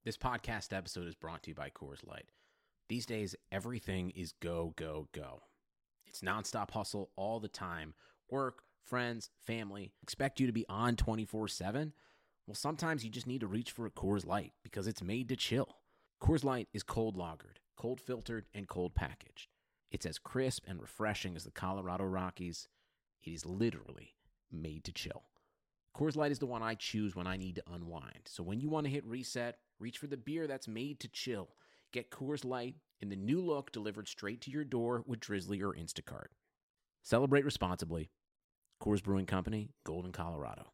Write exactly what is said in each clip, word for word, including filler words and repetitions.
This podcast episode is brought to you by Coors Light. These days, everything is go, go, go. It's nonstop hustle all the time. Work, friends, family, expect you to be on twenty-four seven. Well, sometimes you just need to reach for a Coors Light because it's made to chill. Coors Light is cold lagered, cold filtered, and cold packaged. It's as crisp and refreshing as the Colorado Rockies. It is literally made to chill. Coors Light is the one I choose when I need to unwind. So when you want to hit reset, reach for the beer that's made to chill. Get Coors Light in the new look delivered straight to your door with Drizzly or Instacart. Celebrate responsibly. Coors Brewing Company, Golden, Colorado.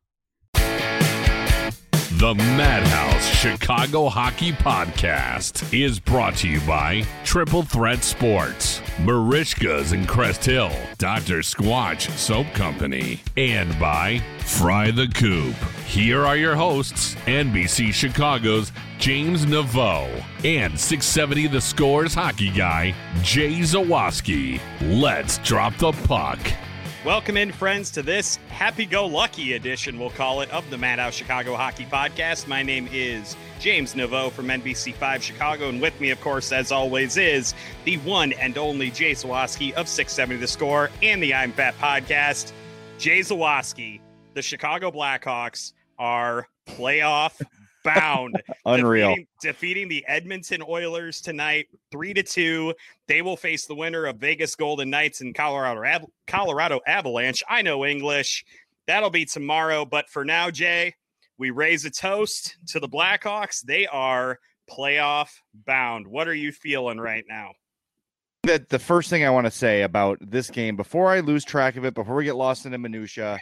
The Madhouse Chicago Hockey Podcast is brought to you by Triple Threat Sports, Marishka's in Crest Hill, Doctor Squatch Soap Company, and by Fry the Coop. Here are your hosts, N B C Chicago's James Naveau and six seventy The Score's hockey guy, Jay Zawaski. Let's drop the puck. Welcome in, friends, to this happy-go-lucky edition, we'll call it, of the Madhouse Chicago Hockey Podcast. My name is James Naveau from N B C five Chicago, and with me, of course, as always, is the one and only Jay Zawaski of six seventy The Score and the I'm Fat Podcast. Jay Zawaski, the Chicago Blackhawks are playoff bound. Unreal. Defeating, defeating the Edmonton Oilers tonight, three to two. They will face the winner of Vegas Golden Knights and Colorado Av- Colorado Avalanche. I know English. That'll be tomorrow. But for now, Jay, we raise a toast to the Blackhawks. They are playoff bound. What are you feeling right now? That the first thing I want to say about this game, before I lose track of it, before we get lost in the minutia,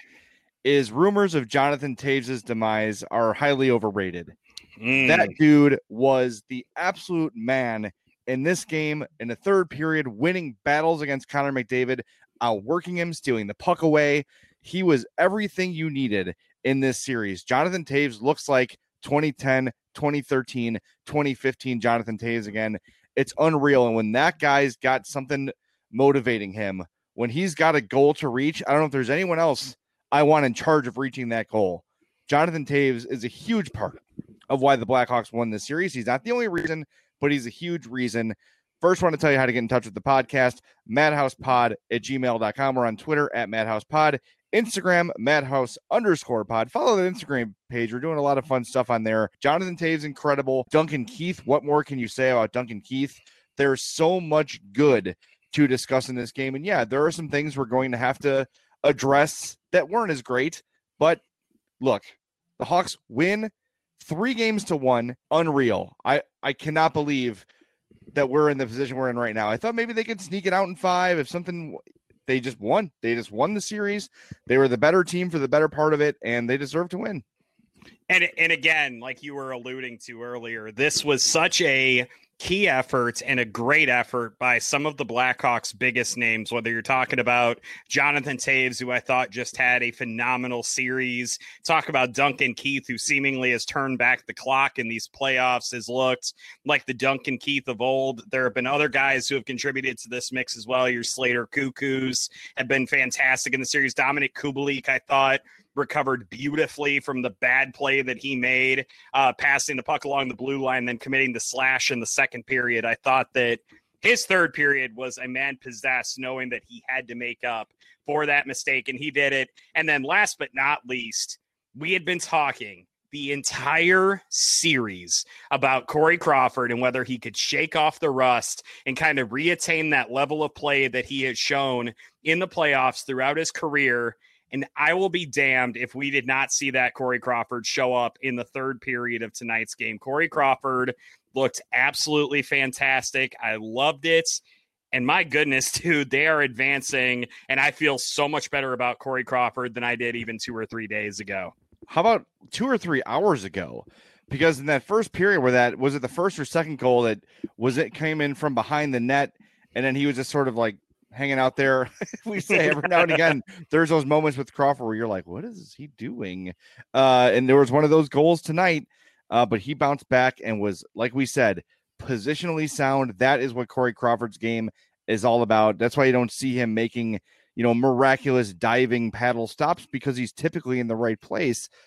is rumors of Jonathan Toews' demise are highly overrated. Mm. That dude was the absolute man in this game in the third period, winning battles against Connor McDavid, outworking him, stealing the puck away. He was everything you needed in this series. Jonathan Toews looks like twenty ten, twenty thirteen, twenty fifteen Jonathan Toews again. It's unreal. And when that guy's got something motivating him, when he's got a goal to reach, I don't know if there's anyone else I want in charge of reaching that goal. Jonathan Toews is a huge part of why the Blackhawks won this series. He's not the only reason, but he's a huge reason. First, I want to tell you how to get in touch with the podcast, madhousepod at gmail dot com. We're on Twitter at madhousepod, Instagram, madhouse underscore pod. Follow the Instagram page. We're doing a lot of fun stuff on there. Jonathan Toews, incredible. Duncan Keith, what more can you say about Duncan Keith? There's so much good to discuss in this game. And yeah, there are some things we're going to have to address that weren't as great, but look, the Hawks win three games to one. Unreal. I, I cannot believe that we're in the position we're in right now. I thought maybe they could sneak it out in five if something. They just won. They just won the series. They were the better team for the better part of it, and they deserve to win. And and again, like you were alluding to earlier, this was such a key effort and a great effort by some of the Blackhawks' biggest names, whether you're talking about Jonathan Toews, who I thought just had a phenomenal series. Talk about Duncan Keith, who seemingly has turned back the clock in these playoffs, has looked like the Duncan Keith of old. There have been other guys who have contributed to this mix as well. Your Slater Cuckoos have been fantastic in the series. Dominic Kubalik, I thought, recovered beautifully from the bad play that he made, uh, passing the puck along the blue line, then committing the slash in the second period. I thought that his third period was a man possessed, knowing that he had to make up for that mistake, and he did it. And then last but not least, we had been talking the entire series about Corey Crawford and whether he could shake off the rust and kind of reattain that level of play that he has shown in the playoffs throughout his career. And I will be damned if we did not see that Corey Crawford show up in the third period of tonight's game. Corey Crawford looked absolutely fantastic. I loved it. And my goodness, dude, they are advancing. And I feel so much better about Corey Crawford than I did even two or three days ago. How about two or three hours ago? Because in that first period where that, was it the first or second goal that was it came in from behind the net, and then he was just sort of like hanging out there. We say every now and again, there's those moments with Crawford where you're like, what is he doing? Uh, and there was one of those goals tonight, uh, but he bounced back and was, like we said, positionally sound. That is what Corey Crawford's game is all about. That's why you don't see him making, you know, miraculous diving paddle stops, because he's typically in the right place.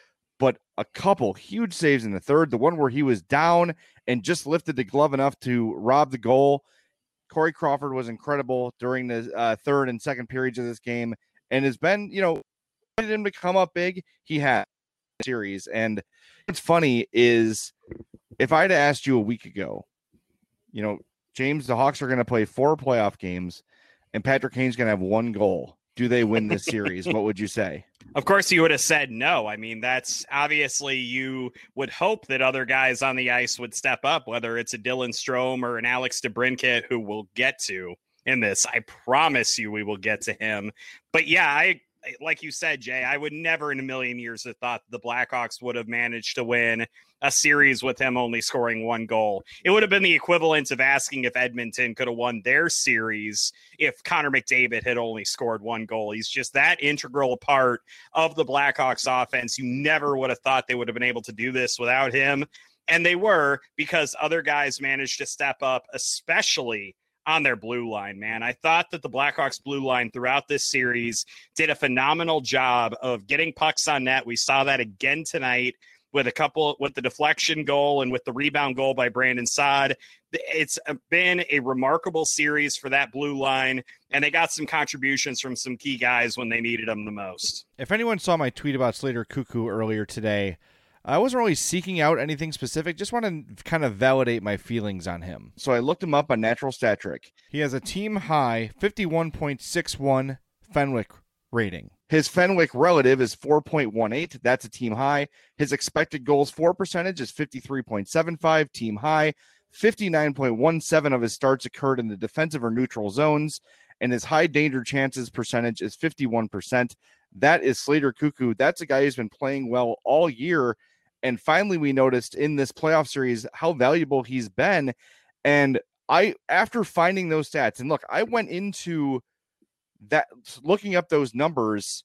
but a couple huge saves in the third. The one where he was down and just lifted the glove enough to rob the goal. Corey Crawford was incredible during the uh, third and second periods of this game, and has been, you know, wanted him to come up big. He had a series, and what's funny is if I'd asked you a week ago, you know, James, the Hawks are going to play four playoff games, and Patrick Kane's going to have one goal. Do they win this series? What would you say? Of course, you would have said no. I mean, that's obviously you would hope that other guys on the ice would step up, whether it's a Dylan Strome or an Alex DeBrincat, who we'll get to in this. I promise you we will get to him. But yeah, I like you said, Jay, I would never in a million years have thought the Blackhawks would have managed to win a series with him only scoring one goal. It would have been the equivalent of asking if Edmonton could have won their series if Connor McDavid had only scored one goal. He's just that integral part of the Blackhawks offense. You never would have thought they would have been able to do this without him. And they were, because other guys managed to step up, especially on their blue line, man. I thought that the Blackhawks blue line throughout this series did a phenomenal job of getting pucks on net. We saw that again tonight with a couple, with the deflection goal and with the rebound goal by Brandon Saad. It's been a remarkable series for that blue line, and they got some contributions from some key guys when they needed them the most. If anyone saw my tweet about Slater Cuckoo earlier today, I wasn't really seeking out anything specific. Just want to kind of validate my feelings on him. So I looked him up on Natural Stat Trick. He has a team high fifty-one point six one Fenwick rating. His Fenwick relative is four point one eight. That's a team high. His expected goals for percentage is fifty-three point seven five, team high. fifty-nine point one seven of his starts occurred in the defensive or neutral zones, and his high danger chances percentage is fifty-one percent. That is Slater Cuckoo. That's a guy who's been playing well all year. And finally, we noticed in this playoff series how valuable he's been. And I, after finding those stats, and look, I went into that looking up those numbers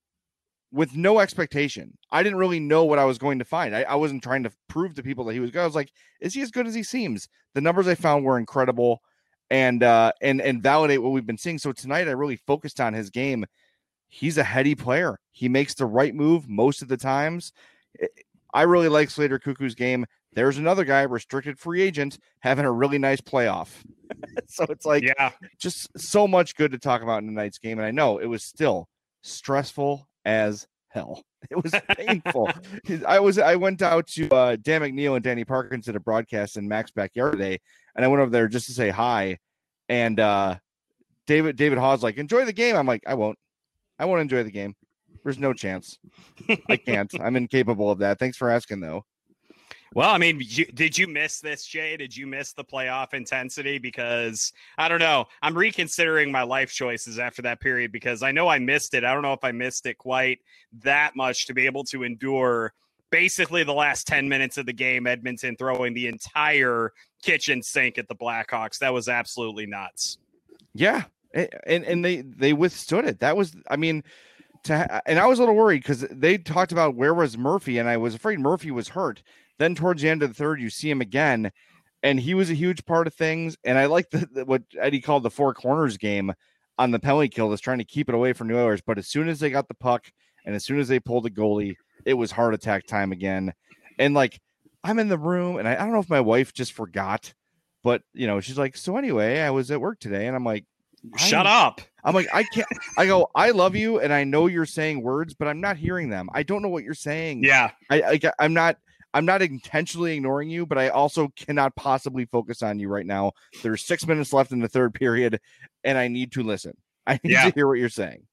with no expectation. I didn't really know what I was going to find. I, I wasn't trying to prove to people that he was good. I was like, is he as good as he seems? The numbers I found were incredible and uh, and and validate what we've been seeing. So tonight, I really focused on his game. He's a heady player. He makes the right move most of the times. I really like Slater Cuckoo's game. There's another guy, restricted free agent, having a really nice playoff. So it's like, yeah, just so much good to talk about in tonight's game. And I know it was still stressful as hell. It was painful. I was, I went out to uh, Dan McNeil and Danny Parkins at a broadcast in Mac's backyard today. And I went over there just to say hi. And uh, David, David Hawes like, enjoy the game. I'm like, I won't, I won't enjoy the game. There's no chance. I can't. I'm incapable of that. Thanks for asking, though. Well, I mean, you, did you miss this, Jay? Did you miss the playoff intensity? Because I don't know. I'm reconsidering my life choices after that period because I know I missed it. I don't know if I missed it quite that much to be able to endure basically the last ten minutes of the game, Edmonton throwing the entire kitchen sink at the Blackhawks. That was absolutely nuts. Yeah. And and they, they withstood it. That was, I mean, to and I was a little worried because they talked about where was Murphy, and I was afraid Murphy was hurt. Then towards the end of the third, you see him again, and he was a huge part of things. And I like the, the what Eddie called the four corners game on the penalty kill, was trying to keep it away from New Oilers. But as soon as they got the puck and as soon as they pulled the goalie, it was heart attack time again. And like, I'm in the room, and I, I don't know if my wife just forgot, but you know, she's like, so anyway, I was at work today, and I'm like, shut up. I'm like, I can't, I go, I love you. And I know you're saying words, but I'm not hearing them. I don't know what you're saying. Yeah. I, I I'm not, I'm not intentionally ignoring you, but I also cannot possibly focus on you right now. There's six minutes left in the third period, and I need to listen. I need yeah. to hear what you're saying.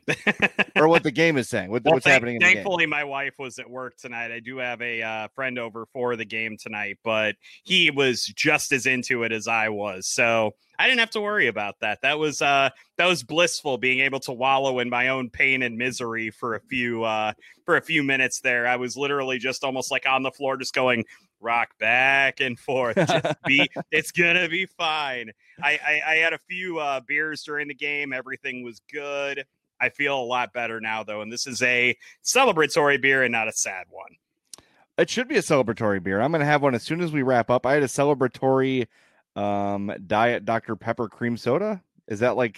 Or what the game is saying, what, well, what's thank, happening in the game. Thankfully, my wife was at work tonight. I do have a uh, friend over for the game tonight, but he was just as into it as I was. So I didn't have to worry about that. That was uh, that was blissful, being able to wallow in my own pain and misery for a few uh, for a few minutes there. I was literally just almost like on the floor, just going rock back and forth. Just be, it's gonna be fine. I, I, I had a few uh, beers during the game. Everything was good. I feel a lot better now, though, and this is a celebratory beer and not a sad one. It should be a celebratory beer. I'm going to have one as soon as we wrap up. I had a celebratory um, Diet Doctor Pepper cream soda. Is that like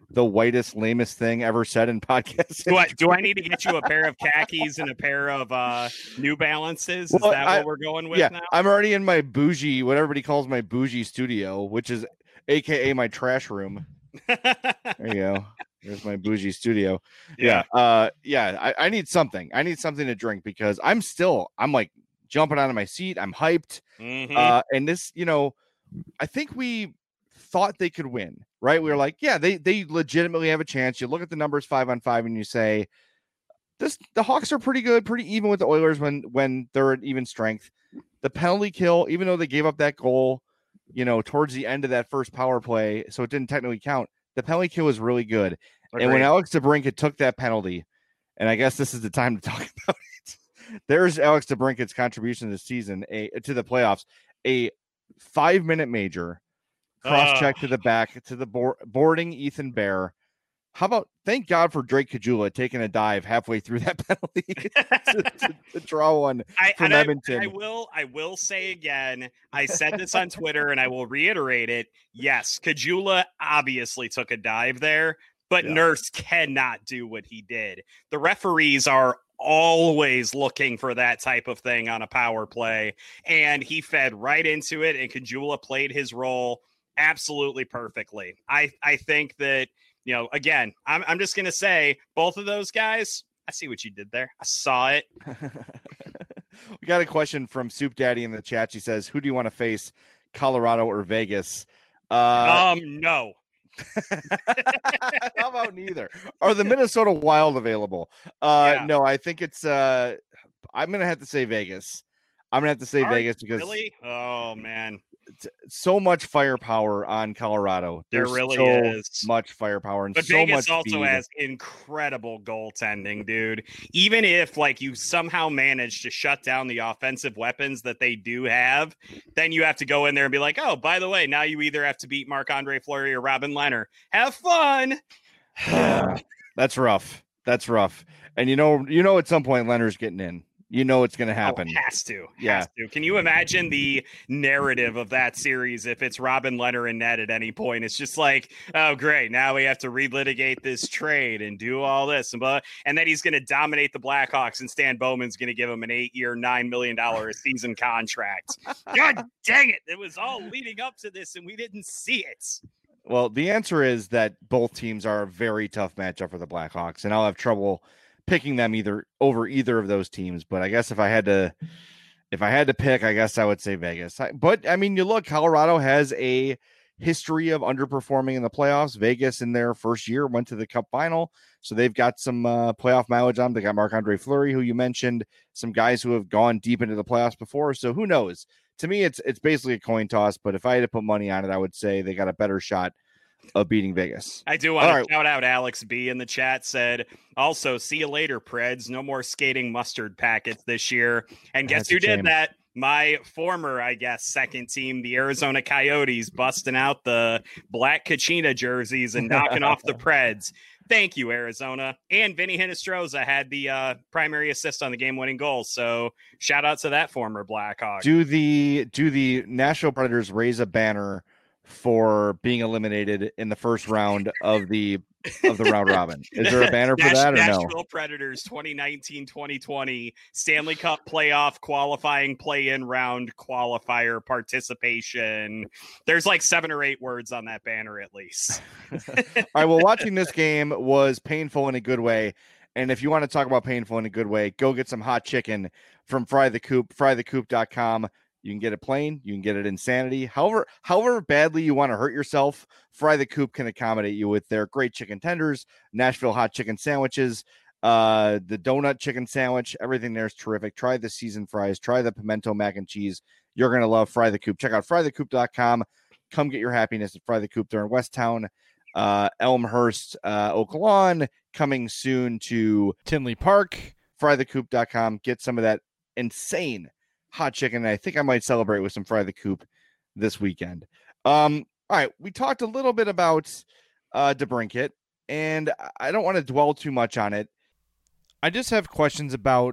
the whitest, lamest thing ever said in podcasts. Do I, do I need to get you a pair of khakis and a pair of uh, New Balances? Is Well, that I, what we're going with yeah, now? I'm already in my bougie, what everybody calls my bougie studio, which is A K A my trash room. There you go. There's my bougie studio. Yeah. yeah uh, yeah. I, I need something. I need something to drink because I'm still, I'm like jumping out of my seat. I'm hyped. Mm-hmm. Uh, and this, you know, I think we thought they could win, right? We were like, yeah, they they legitimately have a chance. You look at the numbers five on five and you say, this the Hawks are pretty good, pretty even with the Oilers when when they're at even strength. The penalty kill, even though they gave up that goal, you know, towards the end of that first power play, so it didn't technically count. The penalty kill was really good. Agreed. And when Alex DeBrincat took that penalty, and I guess this is the time to talk about it. There's Alex DeBrincat's contribution this season, a to the playoffs, a five-minute major, cross-check uh. to the back, to the board, boarding Ethan Bear. How about, thank God for Drake Caggiula taking a dive halfway through that penalty to, to, to draw one I, from Edmonton. I, I will I will say again, I said this on Twitter and I will reiterate it. Yes, Caggiula obviously took a dive there, but yeah. Nurse cannot do what he did. The referees are always looking for that type of thing on a power play, and he fed right into it, and Caggiula played his role absolutely perfectly. I, I think that, you know, again, I'm I'm just going to say both of those guys, I see what you did there. I saw it. We got a question from Soup Daddy in the chat. She says, who do you want to face, Colorado or Vegas? Uh, um, no. How about neither? Are the Minnesota Wild available? Uh, yeah. No, I think it's, uh, I'm going to have to say Vegas. I'm going to have to say Are Vegas because. Really? Oh, man. So much firepower on Colorado. There There's really so is much firepower and but so Vegas much also speed. has incredible goaltending, dude. Even if like you somehow manage to shut down the offensive weapons that they do have, then you have to go in there and be like, oh, by the way, now you either have to beat Marc-Andre Fleury or Robin Lehner. Have fun. That's rough. That's rough. And you know, you know, at some point Lehner's getting in. You know it's going to happen. Oh, has to. Yeah. Has to. Can you imagine the narrative of that series if it's Robin Lehner and net at any point? It's just like, oh, great. Now we have to relitigate this trade and do all this. And, but, and then he's going to dominate the Blackhawks, and Stan Bowman's going to give him an eight-year, nine million dollars a season contract. God dang it. It was all leading up to this, and we didn't see it. Well, the answer is that both teams are a very tough matchup for the Blackhawks, and I'll have trouble picking them either over either of those teams. But I guess if I had to, if I had to pick, I guess I would say Vegas. But I mean, you look, Colorado has a history of underperforming in the playoffs. Vegas in their first year went to the Cup final, so they've got some uh, playoff mileage on them. They got Marc-Andre Fleury, who you mentioned, some guys who have gone deep into the playoffs before. So who knows? To me, it's it's basically a coin toss. But if I had to put money on it, I would say they got a better shot of beating Vegas. I do want All to right. shout out Alex B in the chat, said, also, see you later, Preds. No more skating mustard packets this year. And guess That's who did that? My former, I guess, second team, the Arizona Coyotes, busting out the black Kachina jerseys and knocking off the Preds. Thank you, Arizona. And Vinny Hinostroza had the uh, primary assist on the game-winning goal. So shout out to that former Blackhawk. Do the do the Nashville Predators raise a banner for being eliminated in the first round of the of the round robin? Is there a banner for that or Nashville no? Nashville Predators twenty nineteen twenty twenty Stanley Cup playoff qualifying play-in round qualifier participation. There's like seven or eight words on that banner at least. All right, well, watching this game was painful in a good way. And if you want to talk about painful in a good way, go get some hot chicken from Fry the Coop, fry the coop dot com. You can get it plain. You can get it insanity. However, however badly you want to hurt yourself, Fry the Coop can accommodate you with their great chicken tenders, Nashville hot chicken sandwiches, uh, the donut chicken sandwich. Everything there is terrific. Try the seasoned fries. Try the pimento mac and cheese. You're going to love Fry the Coop. Check out fry the coop dot com. Come get your happiness at Fry the Coop. They're in Westtown, uh, Elmhurst, uh, Oak Lawn, coming soon to Tinley Park. fry the coop dot com. Get some of that insane hot chicken. And I think I might celebrate with some Fry the Coop this weekend. Um, all right. We talked a little bit about uh, DeBrincat, and I don't want to dwell too much on it. I just have questions about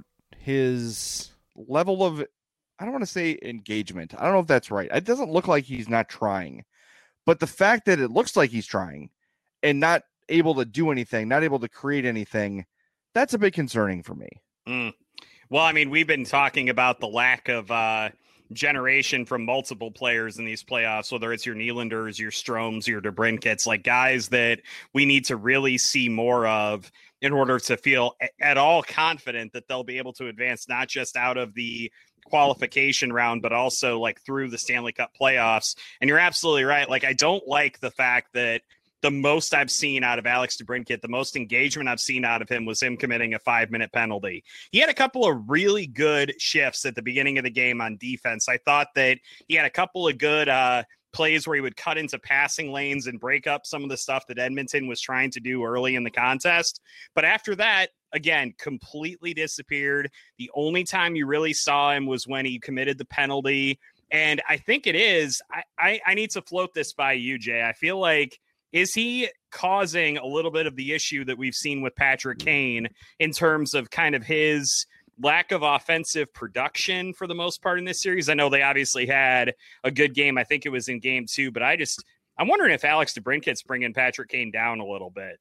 his level of, I don't want to say engagement. I don't know if that's right. It doesn't look like he's not trying, but the fact that it looks like he's trying and not able to do anything, not able to create anything, that's a bit concerning for me. Mm. Well, I mean, we've been talking about the lack of uh, generation from multiple players in these playoffs, whether it's your Nylanders, your Stroms, your DeBrincats, like guys that we need to really see more of in order to feel at all confident that they'll be able to advance not just out of the qualification round, but also like through the Stanley Cup playoffs. And you're absolutely right. Like, I don't like the fact that the most I've seen out of Alex DeBrincat, the most engagement I've seen out of him was him committing a five-minute penalty. He had a couple of really good shifts at the beginning of the game on defense. I thought that he had a couple of good uh, plays where he would cut into passing lanes and break up some of the stuff that Edmonton was trying to do early in the contest. But after that, again, completely disappeared. The only time you really saw him was when he committed the penalty. And I think it is, I, I, I need to float this by you, Jay. I feel like, is he causing a little bit of the issue that we've seen with Patrick Kane in terms of kind of his lack of offensive production for the most part in this series? I know they obviously had a good game. I think it was in game two, but I just, I'm wondering if Alex DeBrincat's bringing Patrick Kane down a little bit.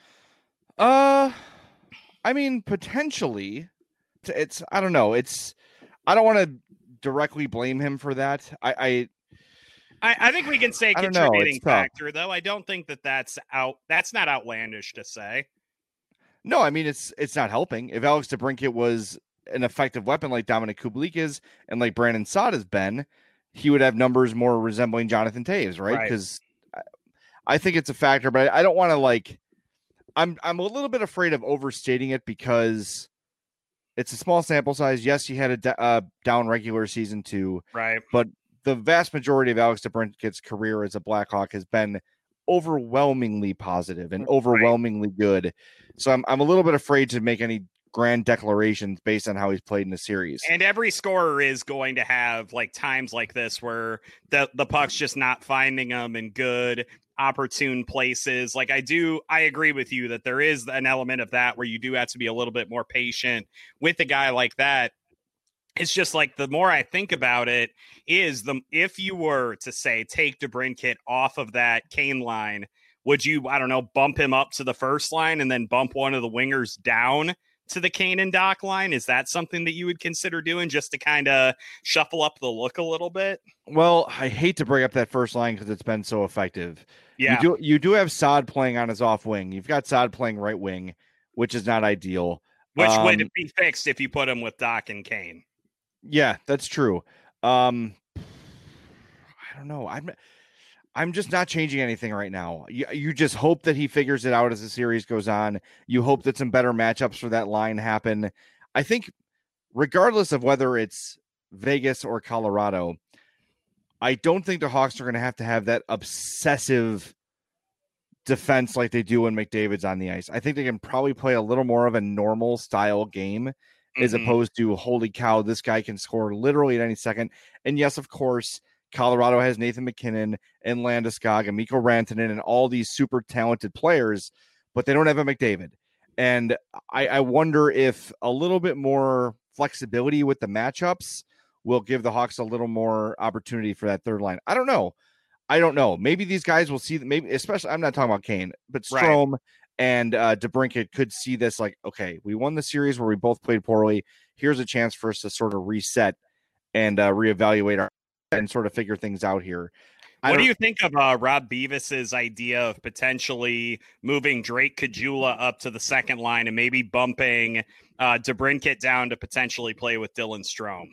Uh, I mean, potentially. It's, I don't know. It's, I don't want to directly blame him for that. I, I, I, I think we can say I don't know, contributing it's tough. factor, though. I don't think that that's out. That's not outlandish to say. No, I mean, it's it's not helping. If Alex DeBrincat was an effective weapon like Dominic Kubalik is and like Brandon Saad has been, he would have numbers more resembling Jonathan Toews, right? Because Right. I, I think it's a factor, but I don't want to like. I'm I'm a little bit afraid of overstating it because it's a small sample size. Yes, he had a d- uh, down regular season too, Right. but the vast majority of Alex DeBrincat's career as a Blackhawk has been overwhelmingly positive and overwhelmingly right. good. So I'm I'm a little bit afraid to make any grand declarations based on how he's played in the series. And every scorer is going to have like times like this where the, the puck's just not finding them in good, opportune places. Like I do, I agree with you that there is an element of that where you do have to be a little bit more patient with a guy like that. It's just like the more I think about it is the if you were to say take DeBrincat off of that Kane line, would you, I don't know, bump him up to the first line and then bump one of the wingers down to the Kane and Doc line? Is that something that you would consider doing just to kind of shuffle up the look a little bit? Well, I hate to bring up that first line because it's been so effective. Yeah. You do, you do have Saad playing on his off wing. You've got Saad playing right wing, which is not ideal. Which um, would be fixed if you put him with Doc and Kane. Yeah, that's true. Um, I don't know. I'm I'm just not changing anything right now. You, you just hope that he figures it out as the series goes on. You hope that some better matchups for that line happen. I think regardless of whether it's Vegas or Colorado, I don't think the Hawks are going to have to have that obsessive defense like they do when McDavid's on the ice. I think they can probably play a little more of a normal style game as Mhm. opposed to, holy cow, this guy can score literally at any second. And yes, of course, Colorado has Nathan McKinnon and Landeskog and Mikko Rantanen and all these super talented players, but they don't have a McDavid. And I, I wonder if a little bit more flexibility with the matchups will give the Hawks a little more opportunity for that third line. I don't know. I don't know. Maybe these guys will see, maybe, especially, I'm not talking about Kane, but Strome. Right. And uh, DeBrincat could see this like, okay, we won the series where we both played poorly. Here's a chance for us to sort of reset and uh, reevaluate our and sort of figure things out here. What do you think of uh, Rob Beavis's idea of potentially moving Drake Caggiula up to the second line and maybe bumping uh, DeBrincat down to potentially play with Dylan Strome?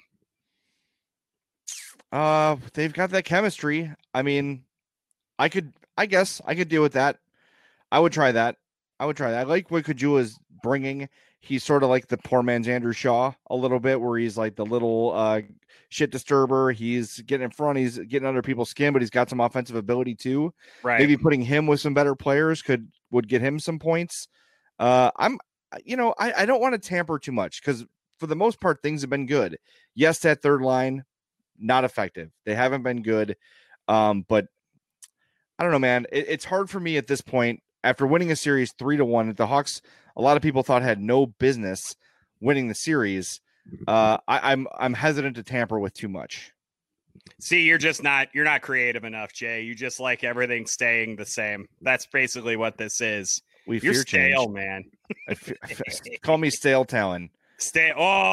Uh, they've got that chemistry. I mean, I could, I guess I could deal with that. I would try that. I would try that. I like what Caggiula is bringing. He's sort of like the poor man's Andrew Shaw a little bit, where he's like the little uh, shit disturber. He's getting in front. He's getting under people's skin, but he's got some offensive ability too. Right. Maybe putting him with some better players could would get him some points. Uh, I'm, you know, I, I don't want to tamper too much because for the most part things have been good. Yes, that third line not effective. They haven't been good, um, but I don't know, man. It, it's hard for me at this point. After winning a series three to one, the Hawks, a lot of people thought had no business winning the series. Uh, I, I'm I'm hesitant to tamper with too much. See, you're just not you're not creative enough, Jay. You just like everything staying the same. That's basically what this is. We You're fear stale, change. man. I fe- I fe- call me stale Talon. Stay.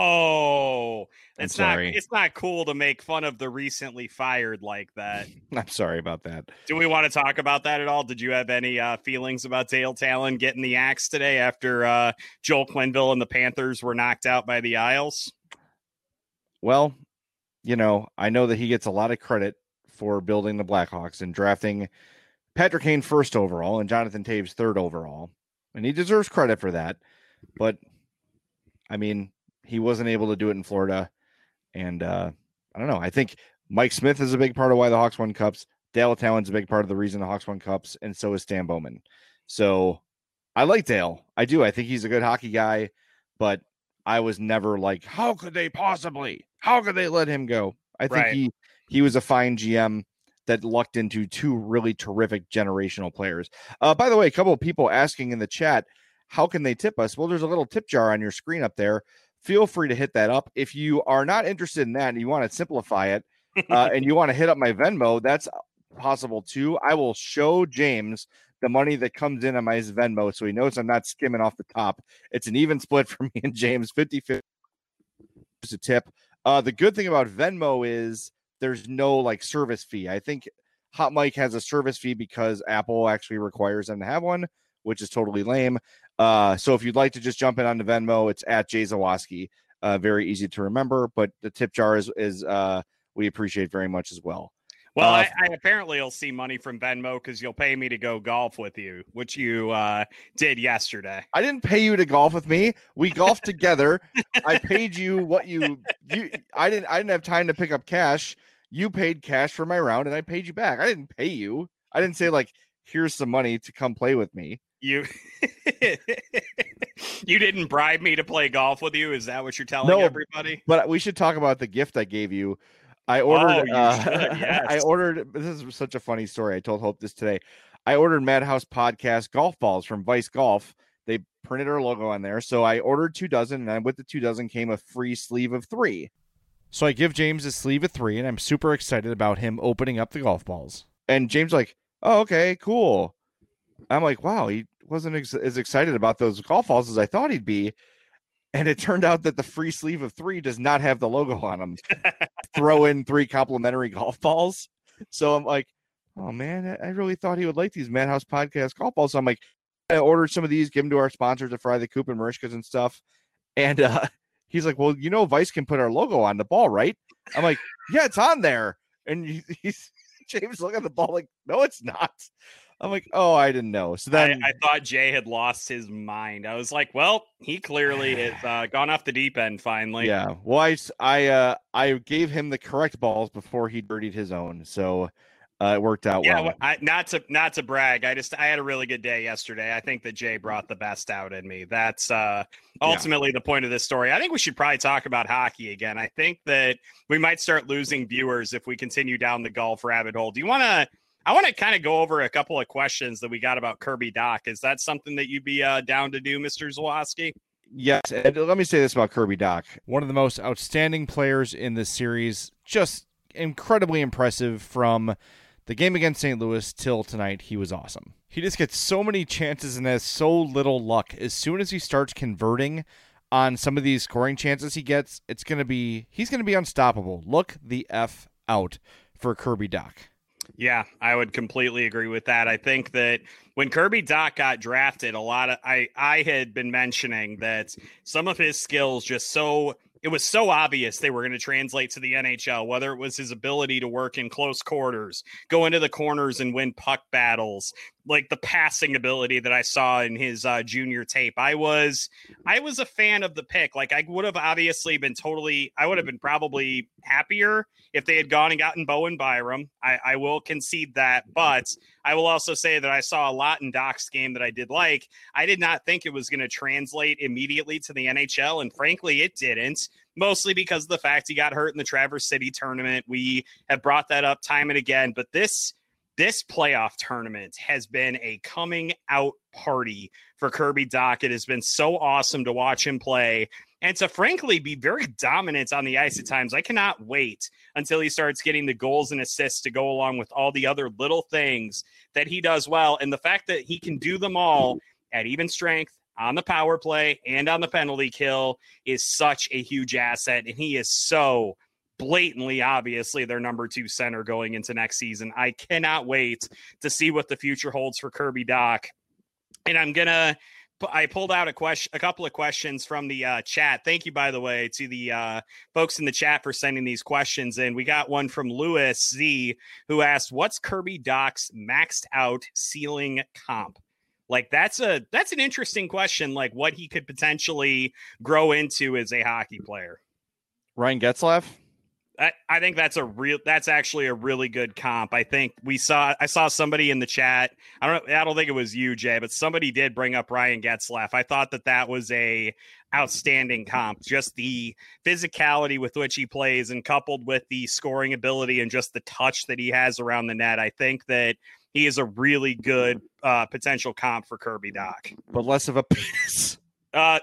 Oh, it's not. sorry. It's not cool to make fun of the recently fired like that. I'm sorry about that. Do we want to talk about that at all? Did you have any uh, feelings about Dale Talon getting the axe today after uh, Joel Quenneville and the Panthers were knocked out by the Isles? Well, you know, I know that he gets a lot of credit for building the Blackhawks and drafting Patrick Kane first overall and Jonathan Toews third overall, and he deserves credit for that. But I mean, he wasn't able to do it in Florida. And uh, I don't know. I think Mike Smith is a big part of why the Hawks won cups. Dale Talon's a big part of the reason the Hawks won cups. And so is Stan Bowman. So I like Dale. I do. I think he's a good hockey guy. But I was never like, how could they possibly? How could they let him go? I think Right. he, he was a fine G M that lucked into two really terrific generational players. Uh, by the way, a couple of people asking in the chat, how can they tip us? Well, there's a little tip jar on your screen up there. Feel free to hit that up. If you are not interested in that and you want to simplify it uh, and you want to hit up my Venmo, that's possible too. I will show James the money that comes in on my Venmo so he knows I'm not skimming off the top. It's an even split for me and James, fifty-fifty is a tip. Uh, the good thing about Venmo is there's no like service fee. I think Hot Mike has a service fee because Apple actually requires them to have one, which is totally lame. Uh, so if you'd like to just jump in on the Venmo, it's at Jay Zawoski. Uh, very easy to remember, but the tip jar is, is uh, we appreciate very much as well. Well, Uh, I, I apparently will see money from Venmo because you'll pay me to go golf with you, which you uh, did yesterday. I didn't pay you to golf with me. We golfed together. I paid you what you, you, I didn't, I didn't have time to pick up cash. You paid cash for my round and I paid you back. I didn't pay you. I didn't say like, here's some money to come play with me. You you didn't bribe me to play golf with you? Is that what you're telling No, everybody? But we should talk about the gift I gave you. I ordered. Oh, you uh, should, yes. I ordered. This is such a funny story. I told Hope this today. I ordered Madhouse Podcast golf balls from Vice Golf. They printed our logo on there, so I ordered two dozen, and with the two dozen came a free sleeve of three. So I give James a sleeve of three, and I'm super excited about him opening up the golf balls. And James like, oh, okay, cool. I'm like, wow, he wasn't ex- as excited about those golf balls as I thought he'd be. And it turned out that the free sleeve of three does not have the logo on them. Throw in three complimentary golf balls. So I'm like, oh man, I really thought he would like these Madhouse Podcast golf balls. So I'm like, I ordered some of these, give them to our sponsors to Fry the Coop and Marishkas and stuff. And uh, he's like, well, you know, Vice can put our logo on the ball, right? I'm like, yeah, it's on there. And he, he's James looking at the ball like, no, it's not. I'm like, oh, I didn't know. So then I, I thought Jay had lost his mind. I was like, well, he clearly has uh, gone off the deep end finally. yeah, well, I, I, uh, I gave him the correct balls before he dirtied his own. So uh, it worked out Yeah, well. well, I, not to not to brag. I just I had a really good day yesterday. I think that Jay brought the best out in me. That's uh, ultimately the point of this story. I think we should probably talk about hockey again. I think that we might start losing viewers if we continue down the golf rabbit hole. Do you want to? I want to kind of go over a couple of questions that we got about Kirby Dach. Is that something that you'd be uh, down to do, Mister Zawoski? Yes, and let me say this about Kirby Dach. One of the most outstanding players in this series, just incredibly impressive from the game against Saint Louis till tonight. He was awesome. He just gets so many chances and has so little luck. As soon as he starts converting on some of these scoring chances he gets, it's going to be, he's going to be unstoppable. Look the F out for Kirby Dach. Yeah, I would completely agree with that. I think that when Kirby Dach got drafted, a lot of I, I had been mentioning that some of his skills just so it was so obvious they were going to translate to the N H L, whether it was his ability to work in close quarters, go into the corners and win puck battles, like the passing ability that I saw in his uh, junior tape. I was I was a fan of the pick. Like I would have obviously been totally I would have been probably happier if they had gone and gotten Bowen Byram. I, I will concede that, but I will also say that I saw a lot in Dach's game that I did like. I did not think it was going to translate immediately to the N H L, and frankly, it didn't, mostly because of the fact he got hurt in the Traverse City tournament. We have brought that up time and again, but this this playoff tournament has been a coming out party for Kirby Dach. It has been so awesome to watch him play. and to frankly be very dominant on the ice at times. I cannot wait until he starts getting the goals and assists to go along with all the other little things that he does well. And the fact that he can do them all at even strength on the power play and on the penalty kill is such a huge asset. And he is so blatantly, obviously, their number two center going into next season. I cannot wait to see what the future holds for Kirby Dach. And I'm going to, I pulled out a question, a couple of questions from the uh, chat. Thank you, by the way, to the uh, folks in the chat for sending these questions in. We got one from Lewis Z, who asked, what's Kirby Dach's maxed out ceiling comp? Like, that's a, that's an interesting question. Like, what he could potentially grow into as a hockey player. Ryan Getzlaf? I, I think that's a real, that's actually a really good comp. I think we saw, I saw somebody in the chat. I don't I don't think it was you, Jay, but somebody did bring up Ryan Getzlaf. I thought that that was a outstanding comp, just the physicality with which he plays and coupled with the scoring ability and just the touch that he has around the net. I think that he is a really good uh, potential comp for Kirby Dach. But less of a penis. Uh,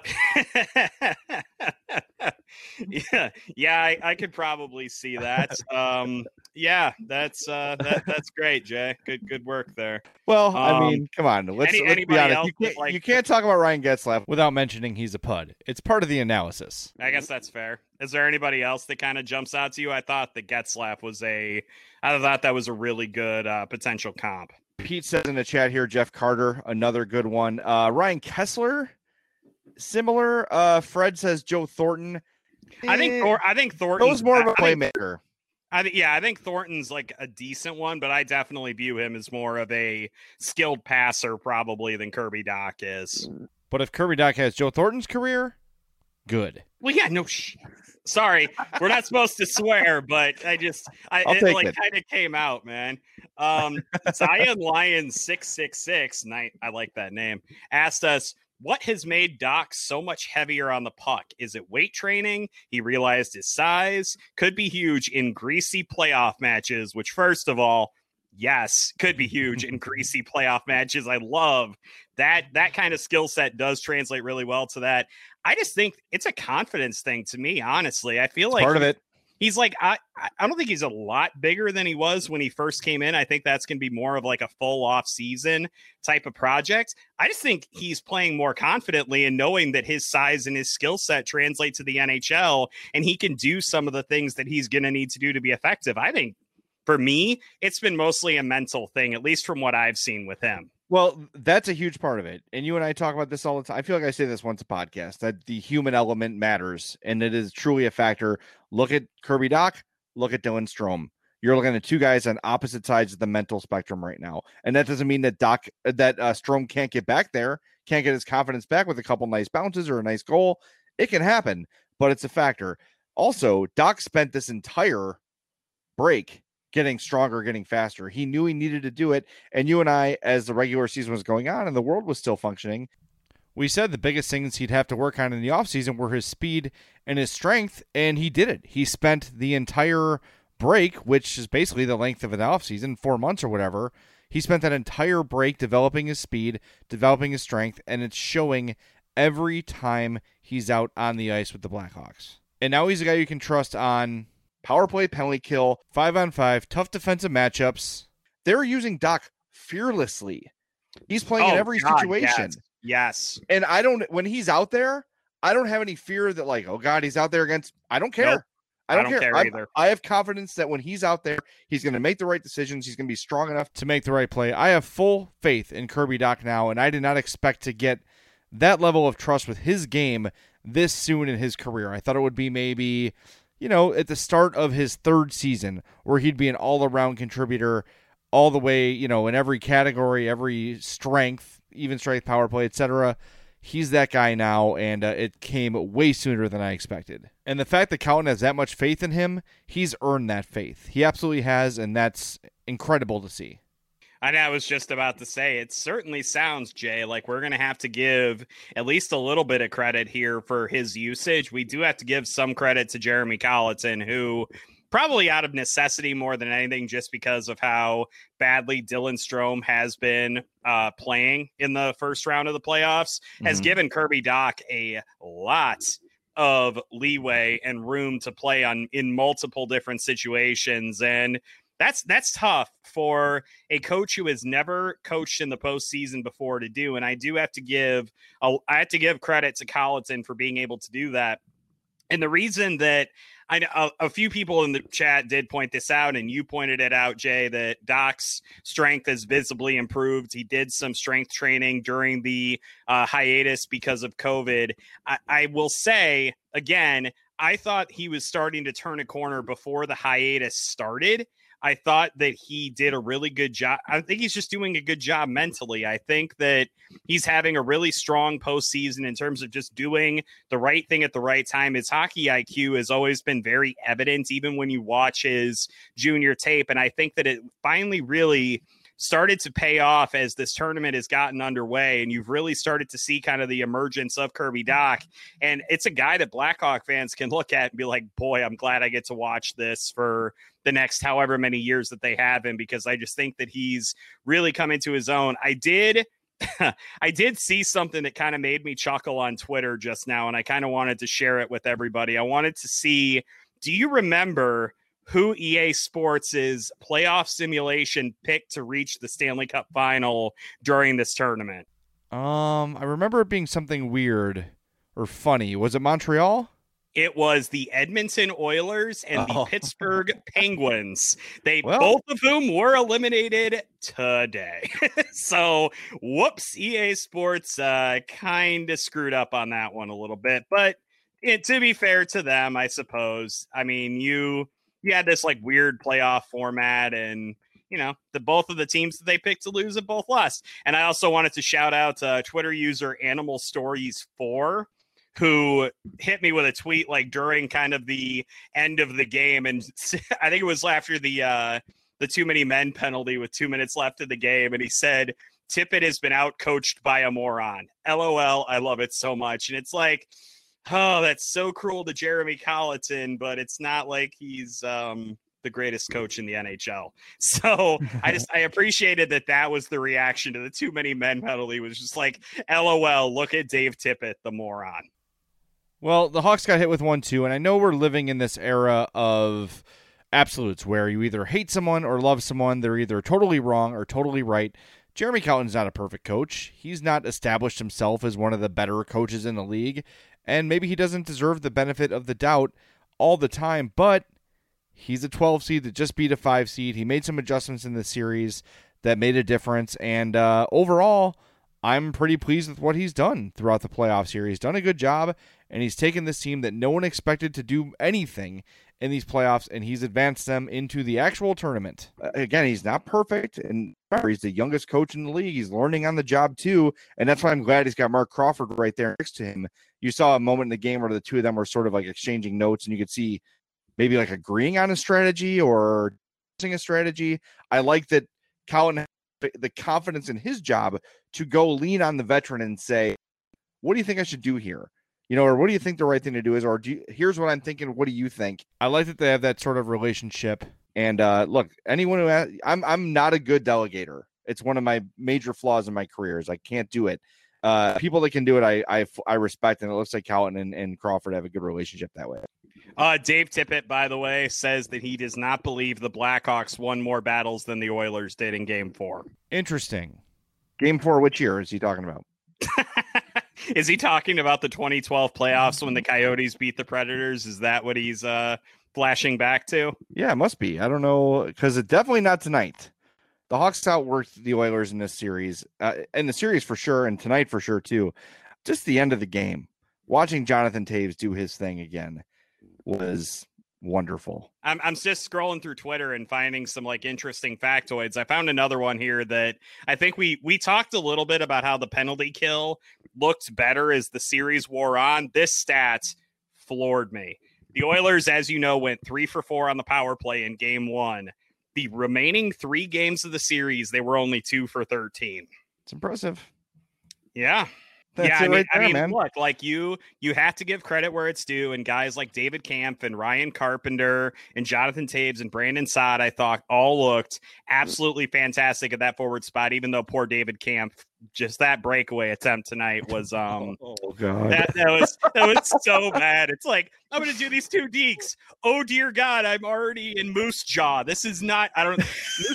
yeah, yeah, I, I could probably see that. Um, yeah, that's uh, that, that's great, Jay. Good, good work there. Well, um, I mean, come on, let's, any, let's be honest. You can't, like, you can't talk about Ryan Getzlaf without mentioning he's a pud. It's part of the analysis. I guess that's fair. Is there anybody else that kind of jumps out to you? I thought that Getzlaf was a, I thought that was a really good uh, potential comp. Pete says in the chat here, Jeff Carter, another good one. Uh, Ryan Kessler. Similar. Uh, Fred says Joe Thornton. I think Thor- I think Thornton's more of a I think, playmaker. I think yeah, I think Thornton's like a decent one, but I definitely view him as more of a skilled passer probably than Kirby Dach is. But if Kirby Dach has Joe Thornton's career, good. Well, yeah, no shit. Sorry, we're not supposed to swear, but I just I I'll it take like it. kind of came out, man. Um, Zion Lion six six six, night I like that name. Asked us, what has made Dach so much heavier on the puck? Is it weight training? He realized his size could be huge in greasy playoff matches, which, first of all, yes, could be huge in greasy playoff matches. I love that. That kind of skill set does translate really well to that. I just think it's a confidence thing to me, honestly. I feel It's like part of it. He's like, I, I don't think he's a lot bigger than he was when he first came in. I think that's going to be more of like a full off season type of project. I just think he's playing more confidently and knowing that his size and his skill set translate to the N H L and he can do some of the things that he's going to need to do to be effective. I think for me, it's been mostly a mental thing, at least from what I've seen with him. Well, that's a huge part of it. And you and I talk about this all the time. I feel like I say this once a podcast, that the human element matters, and it is truly a factor. Look at Kirby Dach, look at Dylan Strome. You're looking at two guys on opposite sides of the mental spectrum right now. And that doesn't mean that Dach, that uh, Strome can't get back there, can't get his confidence back with a couple nice bounces or a nice goal. It can happen, but it's a factor. Also, Dach spent this entire break getting stronger, getting faster. He knew he needed to do it. And you and I, as the regular season was going on and the world was still functioning, we said the biggest things he'd have to work on in the offseason were his speed and his strength, and he did it. He spent the entire break, which is basically the length of an offseason, four months or whatever. He spent that entire break developing his speed, developing his strength, and it's showing every time he's out on the ice with the Blackhawks. And now he's a guy you can trust on power play, penalty kill, five on five, tough defensive matchups. They're using Dach fearlessly. He's playing Oh, in every God, situation. yes. Yes. And I don't, when he's out there, I don't have any fear that like, oh God, he's out there against, I don't care. Nope. I don't, I don't care, care I, either. I have confidence that when he's out there, he's going to make the right decisions. He's going to be strong enough to make the right play. I have full faith in Kirby Dach now, and I did not expect to get that level of trust with his game this soon in his career. I thought it would be maybe, you know, at the start of his third season where he'd be an all-around contributor all the way, you know, in every category, every strength, even strength, power play, et cetera. He's that guy now, and uh, it came way sooner than I expected. And the fact that Colin has that much faith in him, he's earned that faith. He absolutely has, and that's incredible to see. And I was just about to say, it certainly sounds, Jay, like we're going to have to give at least a little bit of credit here for his usage. We do have to give some credit to Jeremy Colliton, who probably out of necessity more than anything, just because of how badly Dylan Strome has been uh, playing in the first round of the playoffs, mm-hmm. has given Kirby Dach a lot of leeway and room to play on in multiple different situations. And that's that's tough for a coach who has never coached in the postseason before to do. And I do have to give a, I have to give credit to Colleton for being able to do that. And the reason that I know a, a few people in the chat did point this out, and you pointed it out, Jay, that Doc's strength has visibly improved. He did some strength training during the uh, hiatus because of COVID. I, I will say, again, I thought he was starting to turn a corner before the hiatus started. I thought that he did a really good job. I think he's just doing a good job mentally. I think that he's having a really strong postseason in terms of just doing the right thing at the right time. His hockey I Q has always been very evident, even when you watch his junior tape. And I think that it finally really started to pay off as this tournament has gotten underway, and you've really started to see kind of the emergence of Kirby Dach. And it's a guy that Blackhawk fans can look at and be like, boy, I'm glad I get to watch this for the next however many years that they have him, because I just think that he's really come into his own. I did I did see something that kind of made me chuckle on Twitter just now, and I kind of wanted to share it with everybody. I wanted to see, do you remember who E A Sports' playoff simulation picked to reach the Stanley Cup final during this tournament? Um, I remember it being something weird or funny. Was it Montreal? It was the Edmonton Oilers and the Oh. Pittsburgh Penguins. They Well- both of whom were eliminated today. So, whoops, E A Sports uh, kind of screwed up on that one a little bit. But it, to be fair to them, I suppose. I mean, you you had this like weird playoff format, and you know, the both of the teams that they picked to lose have both lost. And I also wanted to shout out uh, Twitter user Animal Stories four, who hit me with a tweet like during kind of the end of the game. And I think it was after the uh, the too many men penalty with two minutes left in the game. And he said, Tippett has been out coached by a moron. L O L. I love it so much. And it's like, oh, that's so cruel to Jeremy Colleton, but it's not like he's um, the greatest coach in the N H L. So I just, I appreciated that that was the reaction to the too many men penalty, was just like, L O L, look at Dave Tippett, the moron. Well, the Hawks got hit with one, too, and I know we're living in this era of absolutes where you either hate someone or love someone. They're either totally wrong or totally right. Jeremy Colleton's not a perfect coach. He's not established himself as one of the better coaches in the league, and maybe he doesn't deserve the benefit of the doubt all the time, but he's a twelve seed that just beat a five seed. He made some adjustments in the series that made a difference, and uh, overall, I'm pretty pleased with what he's done throughout the playoffs here. He's done a good job, and he's taken this team that no one expected to do anything in these playoffs, and he's advanced them into the actual tournament. Again, he's not perfect, and he's the youngest coach in the league. He's learning on the job, too, and that's why I'm glad he's got Mark Crawford right there next to him. You saw a moment in the game where the two of them were sort of like exchanging notes, and you could see maybe like agreeing on a strategy or a strategy. I like that Colin had the confidence in his job to go lean on the veteran and say, what do you think I should do here? You know, or what do you think the right thing to do is? Or do you, here's what I'm thinking. What do you think? I like that they have that sort of relationship. And uh, look, anyone who has, I'm I'm not a good delegator. It's one of my major flaws in my career is I can't do it. Uh, people that can do it, I I, I respect, and it looks like Colleton and, and Crawford have a good relationship that way. Uh, Dave Tippett, by the way, says that he does not believe the Blackhawks won more battles than the Oilers did in Game Four. Interesting. Game four, which year is he talking about? Is he talking about the twenty twelve playoffs when the Coyotes beat the Predators? Is that what he's uh, flashing back to? Yeah, it must be. I don't know, because it's definitely not tonight. The Hawks outworked the Oilers in this series, uh, in the series for sure, and tonight for sure too. Just the end of the game, watching Jonathan Toews do his thing again was wonderful. I'm I'm just scrolling through Twitter and finding some like interesting factoids. I found another one here that I think we we talked a little bit about how the penalty kill looked better as the series wore on. This stat floored me. The Oilers, as you know, went three for four on the power play in game one. The remaining three games of the series, they were only two for thirteen. It's impressive. Yeah. That's yeah, it I mean, right there, I mean, man. look, like you, you have to give credit where it's due, and guys like David Camp and Ryan Carpenter and Jonathan Taves and Brandon Saad, I thought all looked absolutely fantastic at that forward spot. Even though poor David Camp, just that breakaway attempt tonight was, um, oh god, that, that was that was so bad. It's like I'm going to do these two deeks. Oh dear God, I'm already in Moose Jaw. This is not. I don't.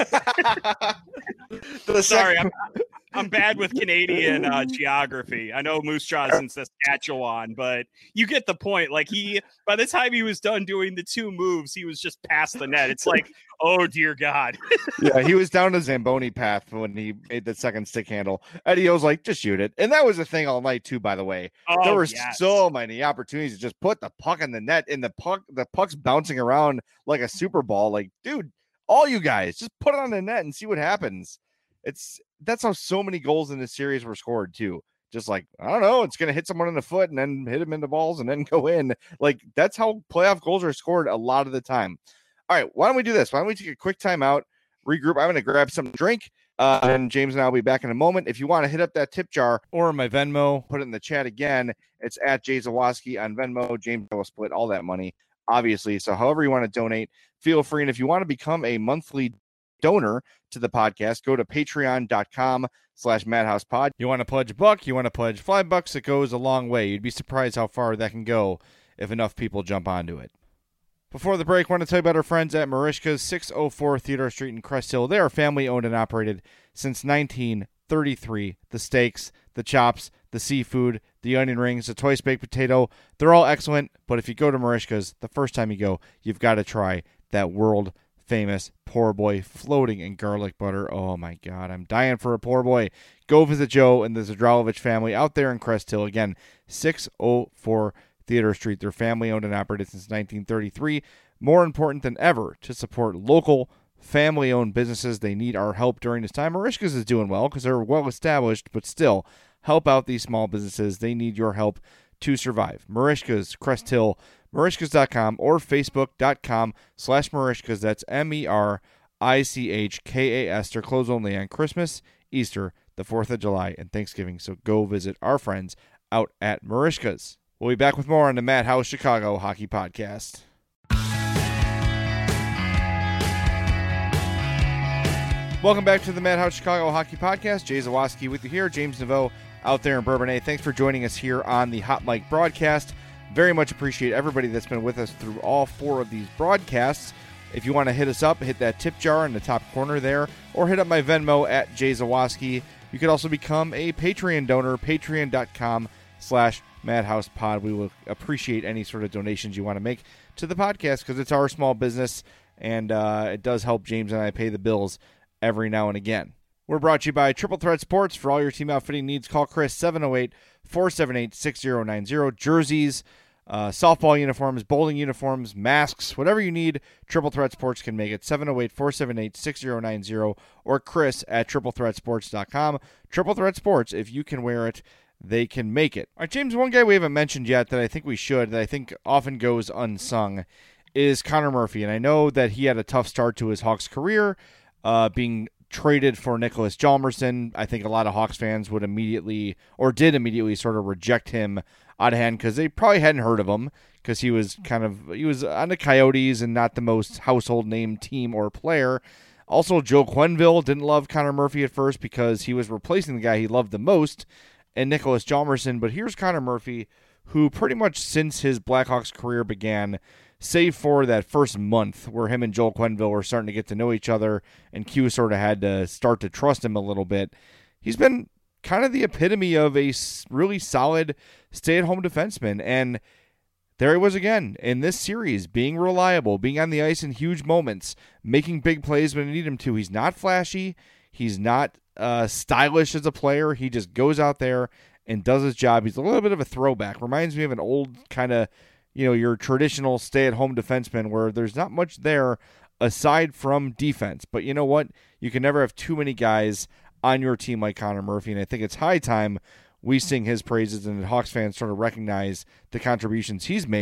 Sorry, I'm. I'm bad with Canadian uh, geography. I know Moose Jaw is in Saskatchewan, but you get the point. Like he, by the time he was done doing the two moves, he was just past the net. It's like, oh dear God. Yeah, he was down the Zamboni path when he made the second stick handle. Eddie O's like, just shoot it. And that was a thing all night too, by the way. Oh, there were yes. so many opportunities to just put the puck in the net, and the puck, the puck's bouncing around like a Super Ball. Like, dude, all you guys, just put it on the net and see what happens. It's that's how so many goals in this series were scored too. Just like, I don't know, it's going to hit someone in the foot and then hit him in the balls and then go in. Like, that's how playoff goals are scored a lot of the time. All right, why don't we do this? Why don't we take a quick timeout, regroup? I'm going to grab some drink, uh, and James and I will be back in a moment. If you want to hit up that tip jar or my Venmo, put it in the chat again. It's at Jay Zawoski on Venmo. James will split all that money, obviously. So however you want to donate, feel free. And if you want to become a monthly donor to the podcast, go to patreon.com slash madhousepod. You want to pledge a buck, you want to pledge five bucks, it goes a long way. You'd be surprised how far that can go if enough people jump onto it. Before the break, I want to tell you about our friends at Marishka's, six oh four Theodore Street in Crest Hill. They are family owned and operated since nineteen thirty-three. The steaks, the chops, the seafood, the onion rings, the twice baked potato, they're all excellent. But if you go to Marishka's, the first time you go, you've got to try that world famous poor boy floating in garlic butter. Oh my God, I'm dying for a poor boy. Go visit Joe and the Zadralovich family out there in Crest Hill. Again, six oh four Theodore Street. They're family owned and operated since nineteen thirty-three. More important than ever to support local family owned businesses. They need our help during this time. Marishka's is doing well because they're well established, but still help out these small businesses. They need your help to survive. Marishka's, Crest Hill, Marishkas dot com or Facebook.com slash Marishkas. That's M E R I C H K A S. They're closed only on Christmas, Easter, the fourth of July, and Thanksgiving. So go visit our friends out at Marishkas. We'll be back with more on the Madhouse Chicago Hockey Podcast. Welcome back to the Madhouse Chicago Hockey Podcast. Jay Zawoski with you here. James Naveau out there in Bourbonnais. Thanks for joining us here on the Hot Mic broadcast. Very much appreciate everybody that's been with us through all four of these broadcasts. If you want to hit us up, hit that tip jar in the top corner there, or hit up my Venmo at Jay Zawoski. You could also become a Patreon donor, patreon.com slash madhousepod. We will appreciate any sort of donations you want to make to the podcast because it's our small business, and uh, it does help James and I pay the bills every now and again. We're brought to you by Triple Threat Sports. For all your team outfitting needs, call Chris, seven oh eight, four seven eight, six oh nine oh. Jerseys, uh, softball uniforms, bowling uniforms, masks, whatever you need, Triple Threat Sports can make it. seven oh eight, four seven eight, six oh nine oh or Chris at triple threat sports dot com. Triple Threat Sports, if you can wear it, they can make it. All right, James, one guy we haven't mentioned yet that I think we should, that I think often goes unsung, is Connor Murphy. And I know that he had a tough start to his Hawks career, uh, being traded for Nicholas Hjalmarsson. I think a lot of Hawks fans would immediately, or did immediately, sort of reject him out of hand because they probably hadn't heard of him because he was kind of, he was on the Coyotes and not the most household name team or player. Also, Joe Quenneville didn't love Connor Murphy at first because he was replacing the guy he loved the most, and Nicholas Hjalmarsson. But here's Connor Murphy, who pretty much since his Blackhawks career began, save for that first month where him and Joel Quenneville were starting to get to know each other and Q sort of had to start to trust him a little bit, he's been kind of the epitome of a really solid stay-at-home defenseman. And there he was again in this series, being reliable, being on the ice in huge moments, making big plays when you need him to. He's not flashy. He's not uh, stylish as a player. He just goes out there and does his job. He's a little bit of a throwback. Reminds me of an old kind of, you know, your traditional stay-at-home defenseman where there's not much there aside from defense. But you know what? You can never have too many guys on your team like Connor Murphy, and I think it's high time we sing his praises and the Hawks fans sort of recognize the contributions he's made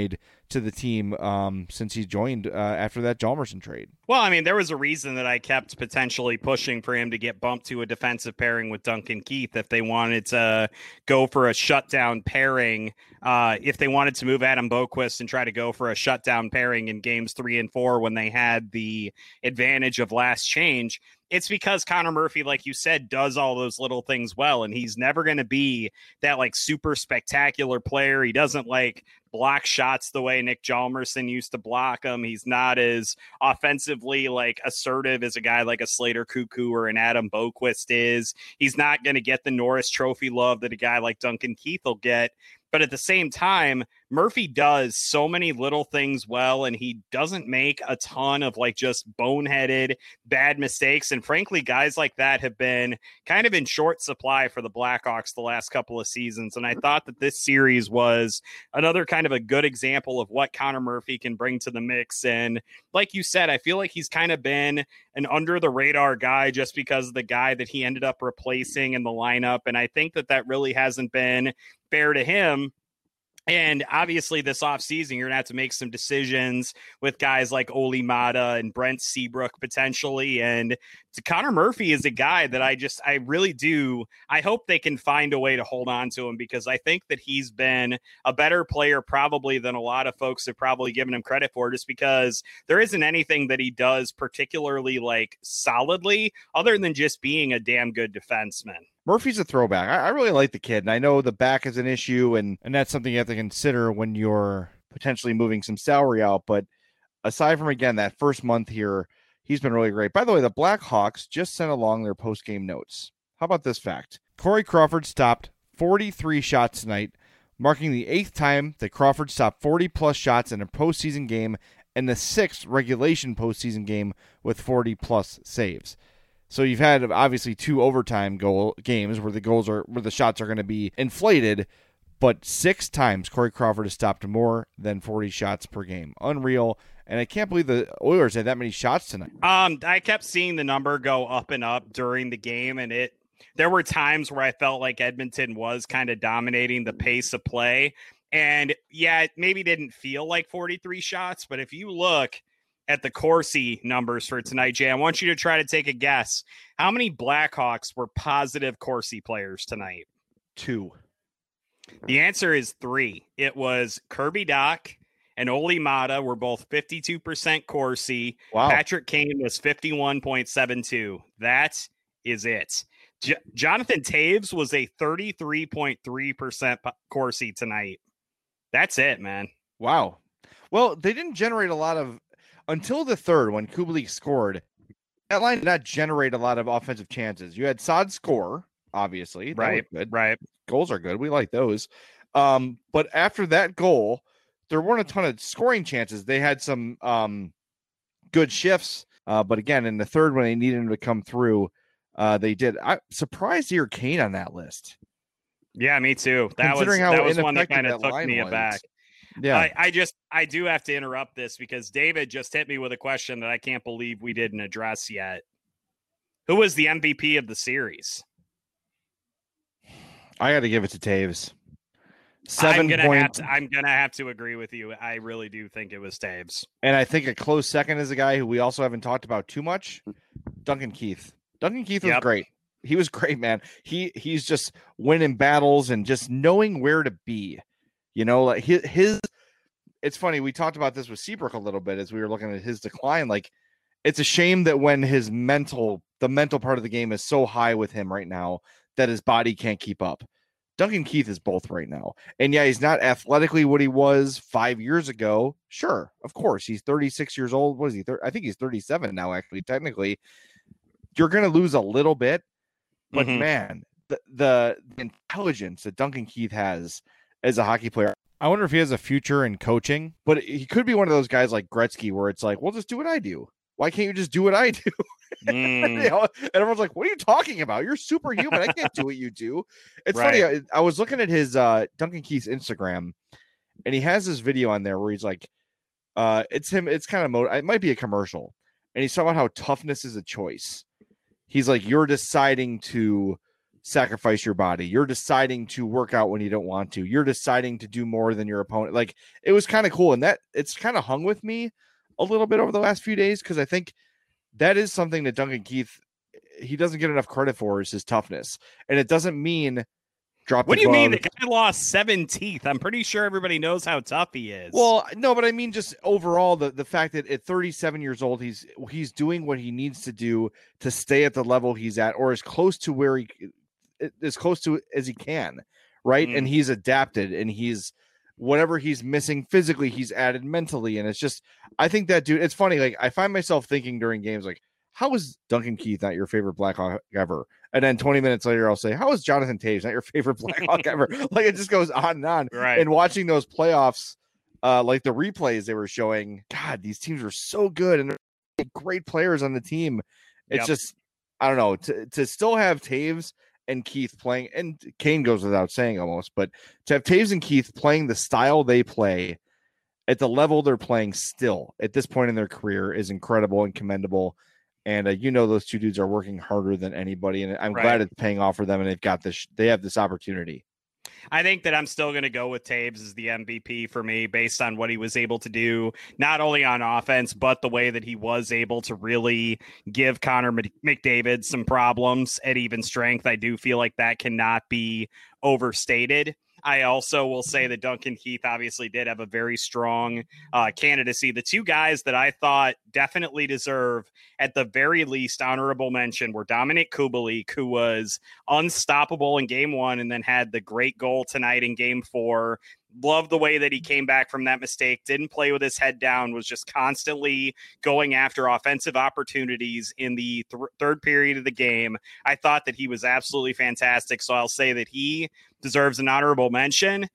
to the team um, since he joined uh, after that Hjalmarsson trade. Well, I mean, there was a reason that I kept potentially pushing for him to get bumped to a defensive pairing with Duncan Keith if they wanted to go for a shutdown pairing. Uh, if they wanted to move Adam Boqvist and try to go for a shutdown pairing in games three and four when they had the advantage of last change, it's because Connor Murphy, like you said, does all those little things well. And he's never going to be that like super spectacular player. He doesn't like block shots the way Nick Hjalmarsson used to block them. He's not as offensively like assertive as a guy like a Slater Cuckoo or an Adam Boqvist is. He's not going to get the Norris Trophy love that a guy like Duncan Keith will get. But at the same time, Murphy does so many little things well, and he doesn't make a ton of like just boneheaded bad mistakes. And frankly, guys like that have been kind of in short supply for the Blackhawks the last couple of seasons. And I thought that this series was another kind of a good example of what Connor Murphy can bring to the mix. And like you said, I feel like he's kind of been an under the radar guy just because of the guy that he ended up replacing in the lineup. And I think that that really hasn't been fair to him. And obviously this offseason, you're going to have to make some decisions with guys like Olli Maatta and Brent Seabrook potentially. And Connor Murphy is a guy that I just, I really do. I hope they can find a way to hold on to him because I think that he's been a better player probably than a lot of folks have probably given him credit for, just because there isn't anything that he does particularly like solidly other than just being a damn good defenseman. Murphy's a throwback. I, I really like the kid, and I know the back is an issue, and, and that's something you have to consider when you're potentially moving some salary out. But aside from, again, that first month here, he's been really great. By the way, the Blackhawks just sent along their post-game notes. How about this fact? Corey Crawford stopped forty-three shots tonight, marking the eighth time that Crawford stopped forty-plus shots in a postseason game and the sixth regulation postseason game with forty-plus saves. So you've had obviously two overtime goal games where the goals are where the shots are going to be inflated, but six times Corey Crawford has stopped more than forty shots per game. Unreal. And I can't believe the Oilers had that many shots tonight. Um, I kept seeing the number go up and up during the game, and it there were times where I felt like Edmonton was kind of dominating the pace of play. And yeah, it maybe didn't feel like forty-three shots, but if you look at the Corsi numbers for tonight, Jay, I want you to try to take a guess. How many Blackhawks were positive Corsi players tonight? Two. The answer is three. It was Kirby Dach and Olli Maatta were both fifty-two percent Corsi. Wow. Patrick Kane was fifty-one point seven two. That is it. J- Jonathan Toews was a thirty-three point three percent Corsi tonight. That's it, man. Wow. Well, they didn't generate a lot of until the third, when Kubalik scored, that line did not generate a lot of offensive chances. You had Saad score, obviously. That right, was good. right. Goals are good. We like those. Um, but after that goal, there weren't a ton of scoring chances. They had some um, good shifts. Uh, but again, in the third, when they needed him to come through, uh, they did. I'm surprised to hear Kane on that list. Yeah, me too. That was, that was one that kind of took me aback. Yeah, I, I just I do have to interrupt this because David just hit me with a question that I can't believe we didn't address yet. Who was the M V P of the series? I got to give it to Toews. Seven I'm gonna point, have to, I'm gonna have to agree with you. I really do think it was Toews, and I think a close second is a guy who we also haven't talked about too much, Duncan Keith. Duncan Keith was yep. great. He was great, man. He he's just winning battles and just knowing where to be. You know, like his, his, it's funny. We talked about this with Seabrook a little bit as we were looking at his decline. Like, it's a shame that when his mental, the mental part of the game is so high with him right now that his body can't keep up. Duncan Keith is both right now. And yeah, he's not athletically what he was five years ago. Sure. Of course. He's thirty-six years old. What is he? I think he's thirty-seven now, actually, technically. You're going to lose a little bit, but mm-hmm. man, the, the intelligence that Duncan Keith has as a hockey player. I wonder if he has a future in coaching, but he could be one of those guys like Gretzky where it's like, well, just do what I do. Why can't you just do what I do? Mm. You know, and everyone's like, what are you talking about? You're superhuman. I can't do what you do. It's right. funny. I, I was looking at his uh, Duncan Keith's Instagram, and he has this video on there where he's like, uh, it's him. It's kind of, mo- it might be a commercial. And he's talking about how toughness is a choice. He's like, you're deciding to sacrifice your body. You're deciding to work out when you don't want to. You're deciding to do more than your opponent. Like, it was kind of cool. And that it's kind of hung with me a little bit over the last few days, because I think that is something that Duncan Keith, he doesn't get enough credit for, is his toughness. And it doesn't mean drop What the do you glove. mean? The guy lost seven teeth. I'm pretty sure everybody knows how tough he is. Well, no, but I mean just overall the, the fact that at thirty-seven years old, he's he's doing what he needs to do to stay at the level he's at, or as close to where he as close to as he can, right? Mm. And he's adapted, and he's whatever he's missing physically, he's added mentally. And it's just, I think that dude, it's funny. Like, I find myself thinking during games, like, how is Duncan Keith not your favorite Blackhawk ever? And then twenty minutes later, I'll say, how is Jonathan Toews not your favorite Blackhawk ever? Like, it just goes on and on. Right. And watching those playoffs, uh, like the replays they were showing, God, these teams are so good, and they're great players on the team. It's yep. just, I don't know, to, to still have Toews and Keith playing, and Kane goes without saying almost, but to have Toews and Keith playing the style they play at the level they're playing still at this point in their career is incredible and commendable. And uh, you know, those two dudes are working harder than anybody, and I'm right. glad it's paying off for them. And they've got this, they have this opportunity. I think that I'm still going to go with Toews as the M V P for me, based on what he was able to do, not only on offense, but the way that he was able to really give Connor McDavid some problems at even strength. I do feel like that cannot be overstated. I also will say that Duncan Keith obviously did have a very strong uh, candidacy. The two guys that I thought definitely deserve, at the very least, honorable mention were Dominik Kubalik, who was unstoppable in game one and then had the great goal tonight in game four. Love the way that he came back from that mistake, didn't play with his head down, was just constantly going after offensive opportunities in the th- third period of the game. I thought that he was absolutely fantastic. So I'll say that he deserves an honorable mention.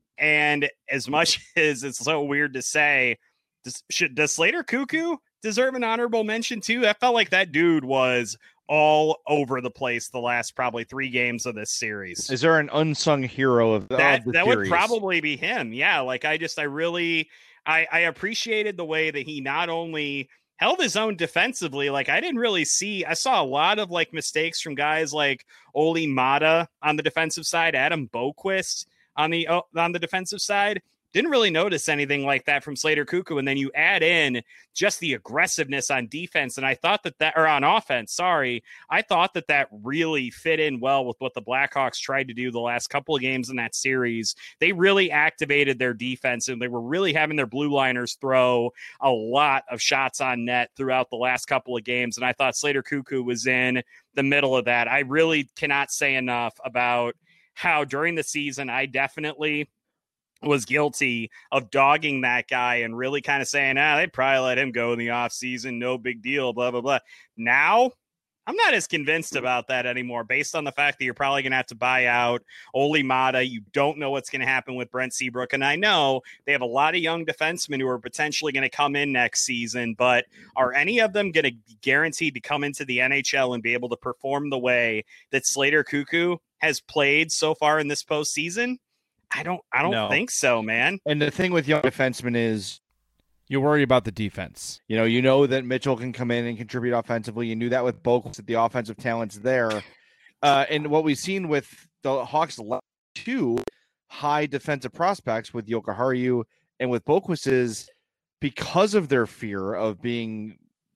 And as much as it's so weird to say, does, should, does Slater Cuckoo deserve an honorable mention too? I felt like that dude was all over the place the last probably three games of this series. Is there an unsung hero of, that? of the that series? Would probably be him. Yeah. Like I just, I really, I, I appreciated the way that he not only held his own defensively. Like I didn't really see, I saw a lot of like mistakes from guys like Olli Maatta on the defensive side, Adam Boqvist on the, on the defensive side. Didn't really notice anything like that from Slater Cuckoo. And then you add in just the aggressiveness on defense. And I thought that that, or on offense, sorry, I thought that that really fit in well with what the Blackhawks tried to do the last couple of games in that series. They really activated their defense, and they were really having their blue liners throw a lot of shots on net throughout the last couple of games. And I thought Slater Cuckoo was in the middle of that. I really cannot say enough about how during the season, I definitely was guilty of dogging that guy and really kind of saying, ah, they'd probably let him go in the offseason. No big deal, blah, blah, blah. Now, I'm not as convinced about that anymore, based on the fact that you're probably going to have to buy out Olli Maatta. You don't know what's going to happen with Brent Seabrook. And I know they have a lot of young defensemen who are potentially going to come in next season, but are any of them going to be guaranteed to come into the N H L and be able to perform the way that Slater Cuckoo has played so far in this postseason? I don't I don't no. think so, man. And the thing with young defensemen is you worry about the defense. You know, you know that Mitchell can come in and contribute offensively. You knew that with Boqvist, the offensive talent's there. Uh, and what we've seen with the Hawks, two high defensive prospects with Jokiharju and with Boqvist is because of their fear of being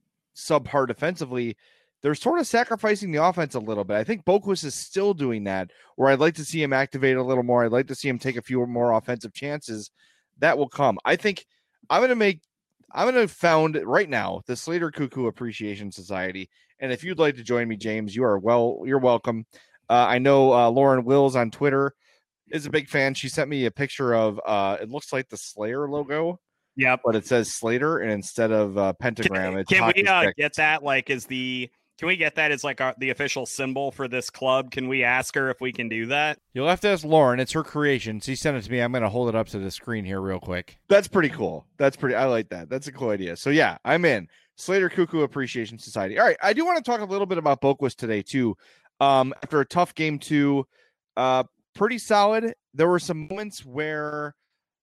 subpar defensively, they're sort of sacrificing the offense a little bit. I think Boqvist is still doing that, where I'd like to see him activate a little more. I'd like to see him take a few more offensive chances. That will come. I think I'm going to make, I'm going to found right now the Slater Cuckoo Appreciation Society. And if you'd like to join me, James, you are well, you're welcome. Uh, I know uh, Lauren Wills on Twitter is a big fan. She sent me a picture of, uh, it looks like the Slayer logo. Yeah, but it says Slater, and instead of uh, pentagram, can, it's can we uh, get that like as the, Can we get that as like our, the official symbol for this club? Can we ask her if we can do that? You'll have to ask Lauren. It's her creation. She sent it to me. I'm going to hold it up to the screen here real quick. That's pretty cool. That's pretty, I like that. That's a cool idea. So yeah, I'm in. Slater Cuckoo Appreciation Society. All right. I do want to talk a little bit about Boqvist today too. Um, after a tough game two, uh, pretty solid. There were some moments where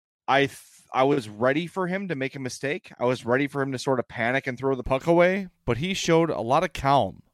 I th- I was ready for him to make a mistake. I was ready for him to sort of panic and throw the puck away, but he showed a lot of calm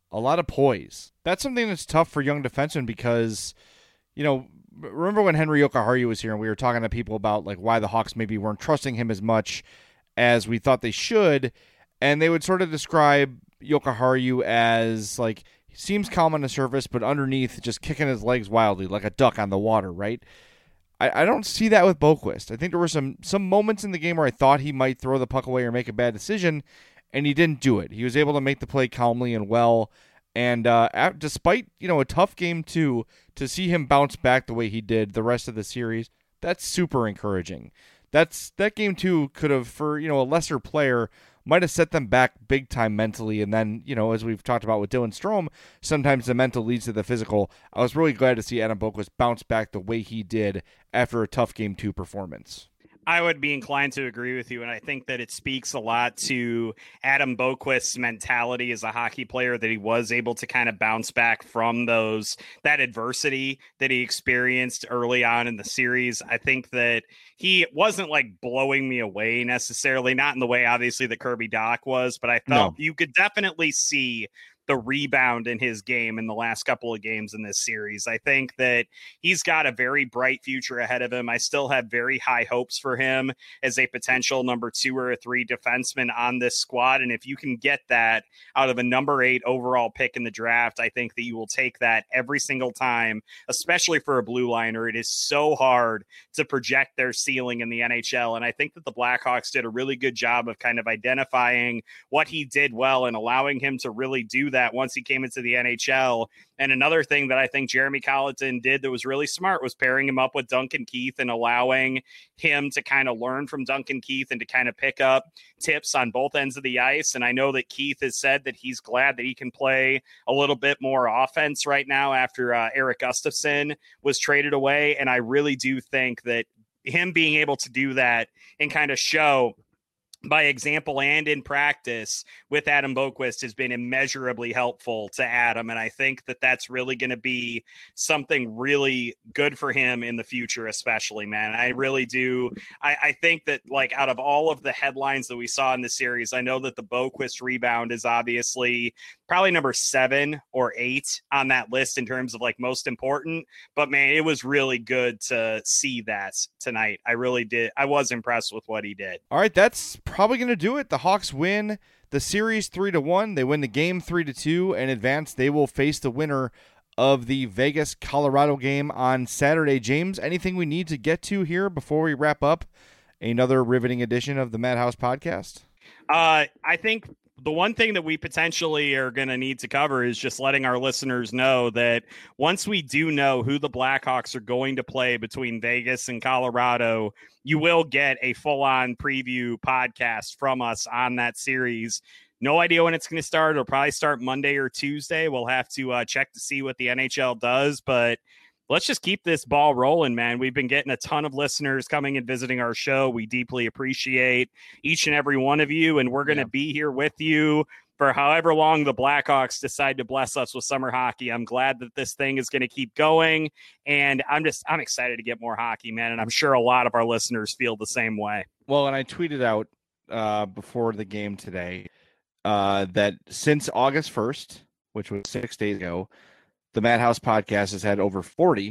a lot of poise. That's something that's tough for young defensemen because, you know, remember when Henri Jokiharju was here and we were talking to people about like why the Hawks maybe weren't trusting him as much as we thought they should, and they would sort of describe Jokiharju as like he seems calm on the surface, but underneath just kicking his legs wildly like a duck on the water, right? I, I don't see that with Boqvist. I think there were some some moments in the game where I thought he might throw the puck away or make a bad decision, and he didn't do it. He was able to make the play calmly and well. And uh, at, despite, you know, a tough game too, to see him bounce back the way he did the rest of the series, that's super encouraging. That's that game too could have, for, you know, a lesser player, might have set them back big time mentally. And then, you know, as we've talked about with Dylan Strome, sometimes the mental leads to the physical. I was really glad to see Adam Boqvist bounce back the way he did after a tough game two performance. I would be inclined to agree with you, and I think that it speaks a lot to Adam Boqvist's mentality as a hockey player, that he was able to kind of bounce back from those that adversity that he experienced early on in the series. I think that he wasn't like blowing me away necessarily, not in the way obviously that Kirby Dach was, but I felt no. you could definitely see the rebound in his game in the last couple of games in this series. I think that he's got a very bright future ahead of him. I still have very high hopes for him as a potential number two or a three defenseman on this squad. And if you can get that out of a number eight overall pick in the draft, I think that you will take that every single time, especially for a blue liner. It is so hard to project their ceiling in the N H L. And I think that the Blackhawks did a really good job of kind of identifying what he did well and allowing him to really do that once he came into the N H L. And another thing that I think Jeremy Colliton did that was really smart was pairing him up with Duncan Keith and allowing him to kind of learn from Duncan Keith and to kind of pick up tips on both ends of the ice. And I know that Keith has said that he's glad that he can play a little bit more offense right now after uh, Eric Gustafsson was traded away. And I really do think that him being able to do that and kind of show by example and in practice with Adam Boqvist has been immeasurably helpful to Adam. And I think that that's really going to be something really good for him in the future, especially, man. I really do. I, I think that like out of all of the headlines that we saw in the series, I know that the Boqvist rebound is obviously probably number seven or eight on that list in terms of like most important, but man, it was really good to see that tonight. I really did. I was impressed with what he did. All right. That's probably going to do it. The Hawks win the series three to one. They win the game three to two and advance. They will face the winner of the Vegas Colorado game on Saturday. James, anything we need to get to here before we wrap up another riveting edition of the Madhouse podcast? Uh, I think the one thing that we potentially are going to need to cover is just letting our listeners know that once we do know who the Blackhawks are going to play between Vegas and Colorado, you will get a full-on preview podcast from us on that series. No idea when it's going to start. It'll probably start Monday or Tuesday. We'll have to uh, check to see what the N H L does, but let's just keep this ball rolling, man. We've been getting a ton of listeners coming and visiting our show. We deeply appreciate each and every one of you, and we're going to yeah. be here with you for however long the Blackhawks decide to bless us with summer hockey. I'm glad that this thing is going to keep going, and I'm just I'm excited to get more hockey, man, and I'm sure a lot of our listeners feel the same way. Well, and I tweeted out uh, before the game today uh, that since August first, which was six days ago, the Madhouse podcast has had over forty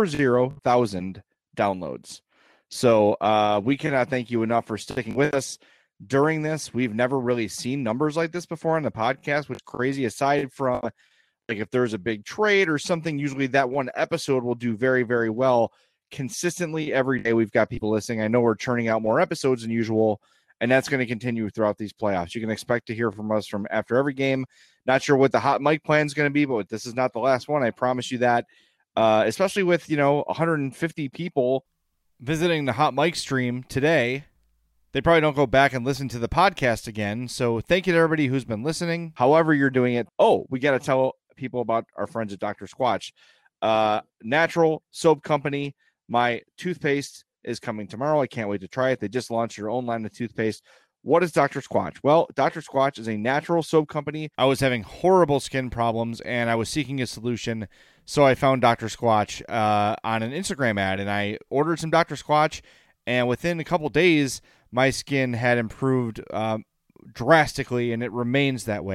thousand downloads. So uh, we cannot thank you enough for sticking with us during this. We've never really seen numbers like this before on the podcast, which is crazy. Aside from like if there's a big trade or something, usually that one episode will do very, very well. Consistently every day we've got people listening. I know we're churning out more episodes than usual, and that's going to continue throughout these playoffs. You can expect to hear from us from after every game. Not sure what the hot mic plan is going to be, but this is not the last one. I promise you that, uh, especially with, you know, one hundred fifty people visiting the hot mic stream today. They probably don't go back and listen to the podcast again. So thank you to everybody who's been listening. However you're doing it. Oh, we got to tell people about our friends at Doctor Squatch. Uh, natural soap company. My toothpaste is coming tomorrow. I can't wait to try it. They just launched their own line of toothpaste. What is Doctor Squatch? Well, Doctor Squatch is a natural soap company. I was having horrible skin problems, and I was seeking a solution, so I found Doctor Squatch uh, on an Instagram ad, and I ordered some Doctor Squatch, and within a couple days, my skin had improved um, drastically, and it remains that way.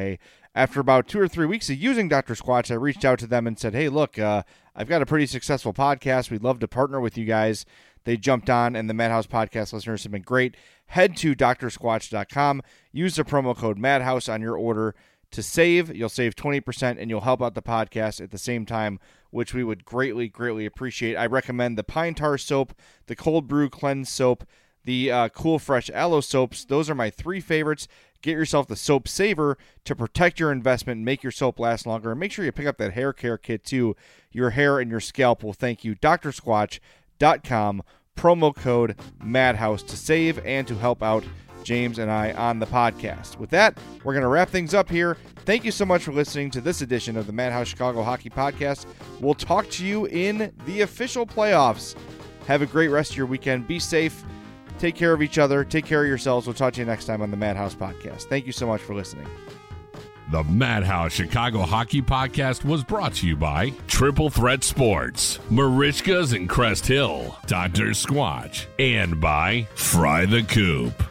after about two or three weeks of using Doctor Squatch, I reached out to them and said, hey, look, uh, I've got a pretty successful podcast. We'd love to partner with you guys. They jumped on, and the Madhouse podcast listeners have been great. Head to D R squatch dot com. Use the promo code Madhouse on your order to save. You'll save twenty percent, and you'll help out the podcast at the same time, which we would greatly, greatly appreciate. I recommend the Pine Tar Soap, the Cold Brew Cleanse Soap, the uh, Cool Fresh Aloe Soaps. Those are my three favorites. Get yourself the Soap Saver to protect your investment and make your soap last longer. And make sure you pick up that hair care kit, too. Your hair and your scalp will thank you. D R squatch dot com, promo code Madhouse to save and to help out James and I on the podcast. With that, we're going to wrap things up here. Thank you so much for listening to this edition of the Madhouse Chicago Hockey Podcast. We'll talk to you in the official playoffs. Have a great rest of your weekend. Be safe. Take care of each other. Take care of yourselves. We'll talk to you next time on the Madhouse Podcast. Thank you so much for listening. The Madhouse Chicago Hockey Podcast was brought to you by Triple Threat Sports, Marishkas and Crest Hill, Doctor Squatch, and by Fry the Coop.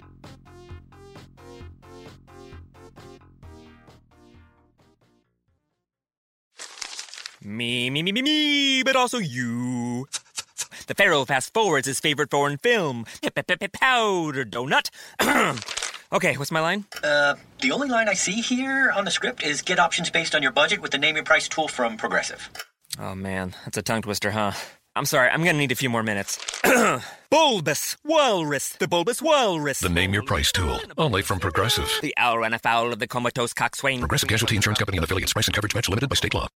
Me, me, me, me, me, but also you. The Pharaoh fast forwards his favorite foreign film, Powder Donut. Okay, what's my line? Uh, the only line I see here on the script is get options based on your budget with the Name Your Price tool from Progressive. Oh, man, that's a tongue twister, huh? I'm sorry, I'm gonna need a few more minutes. Bulbous Walrus, the Bulbous Walrus. The Name Your Price tool, only from Progressive. The owl ran afoul of the comatose coxswain. Progressive Casualty Insurance Company and affiliates. Price and coverage match limited by state law.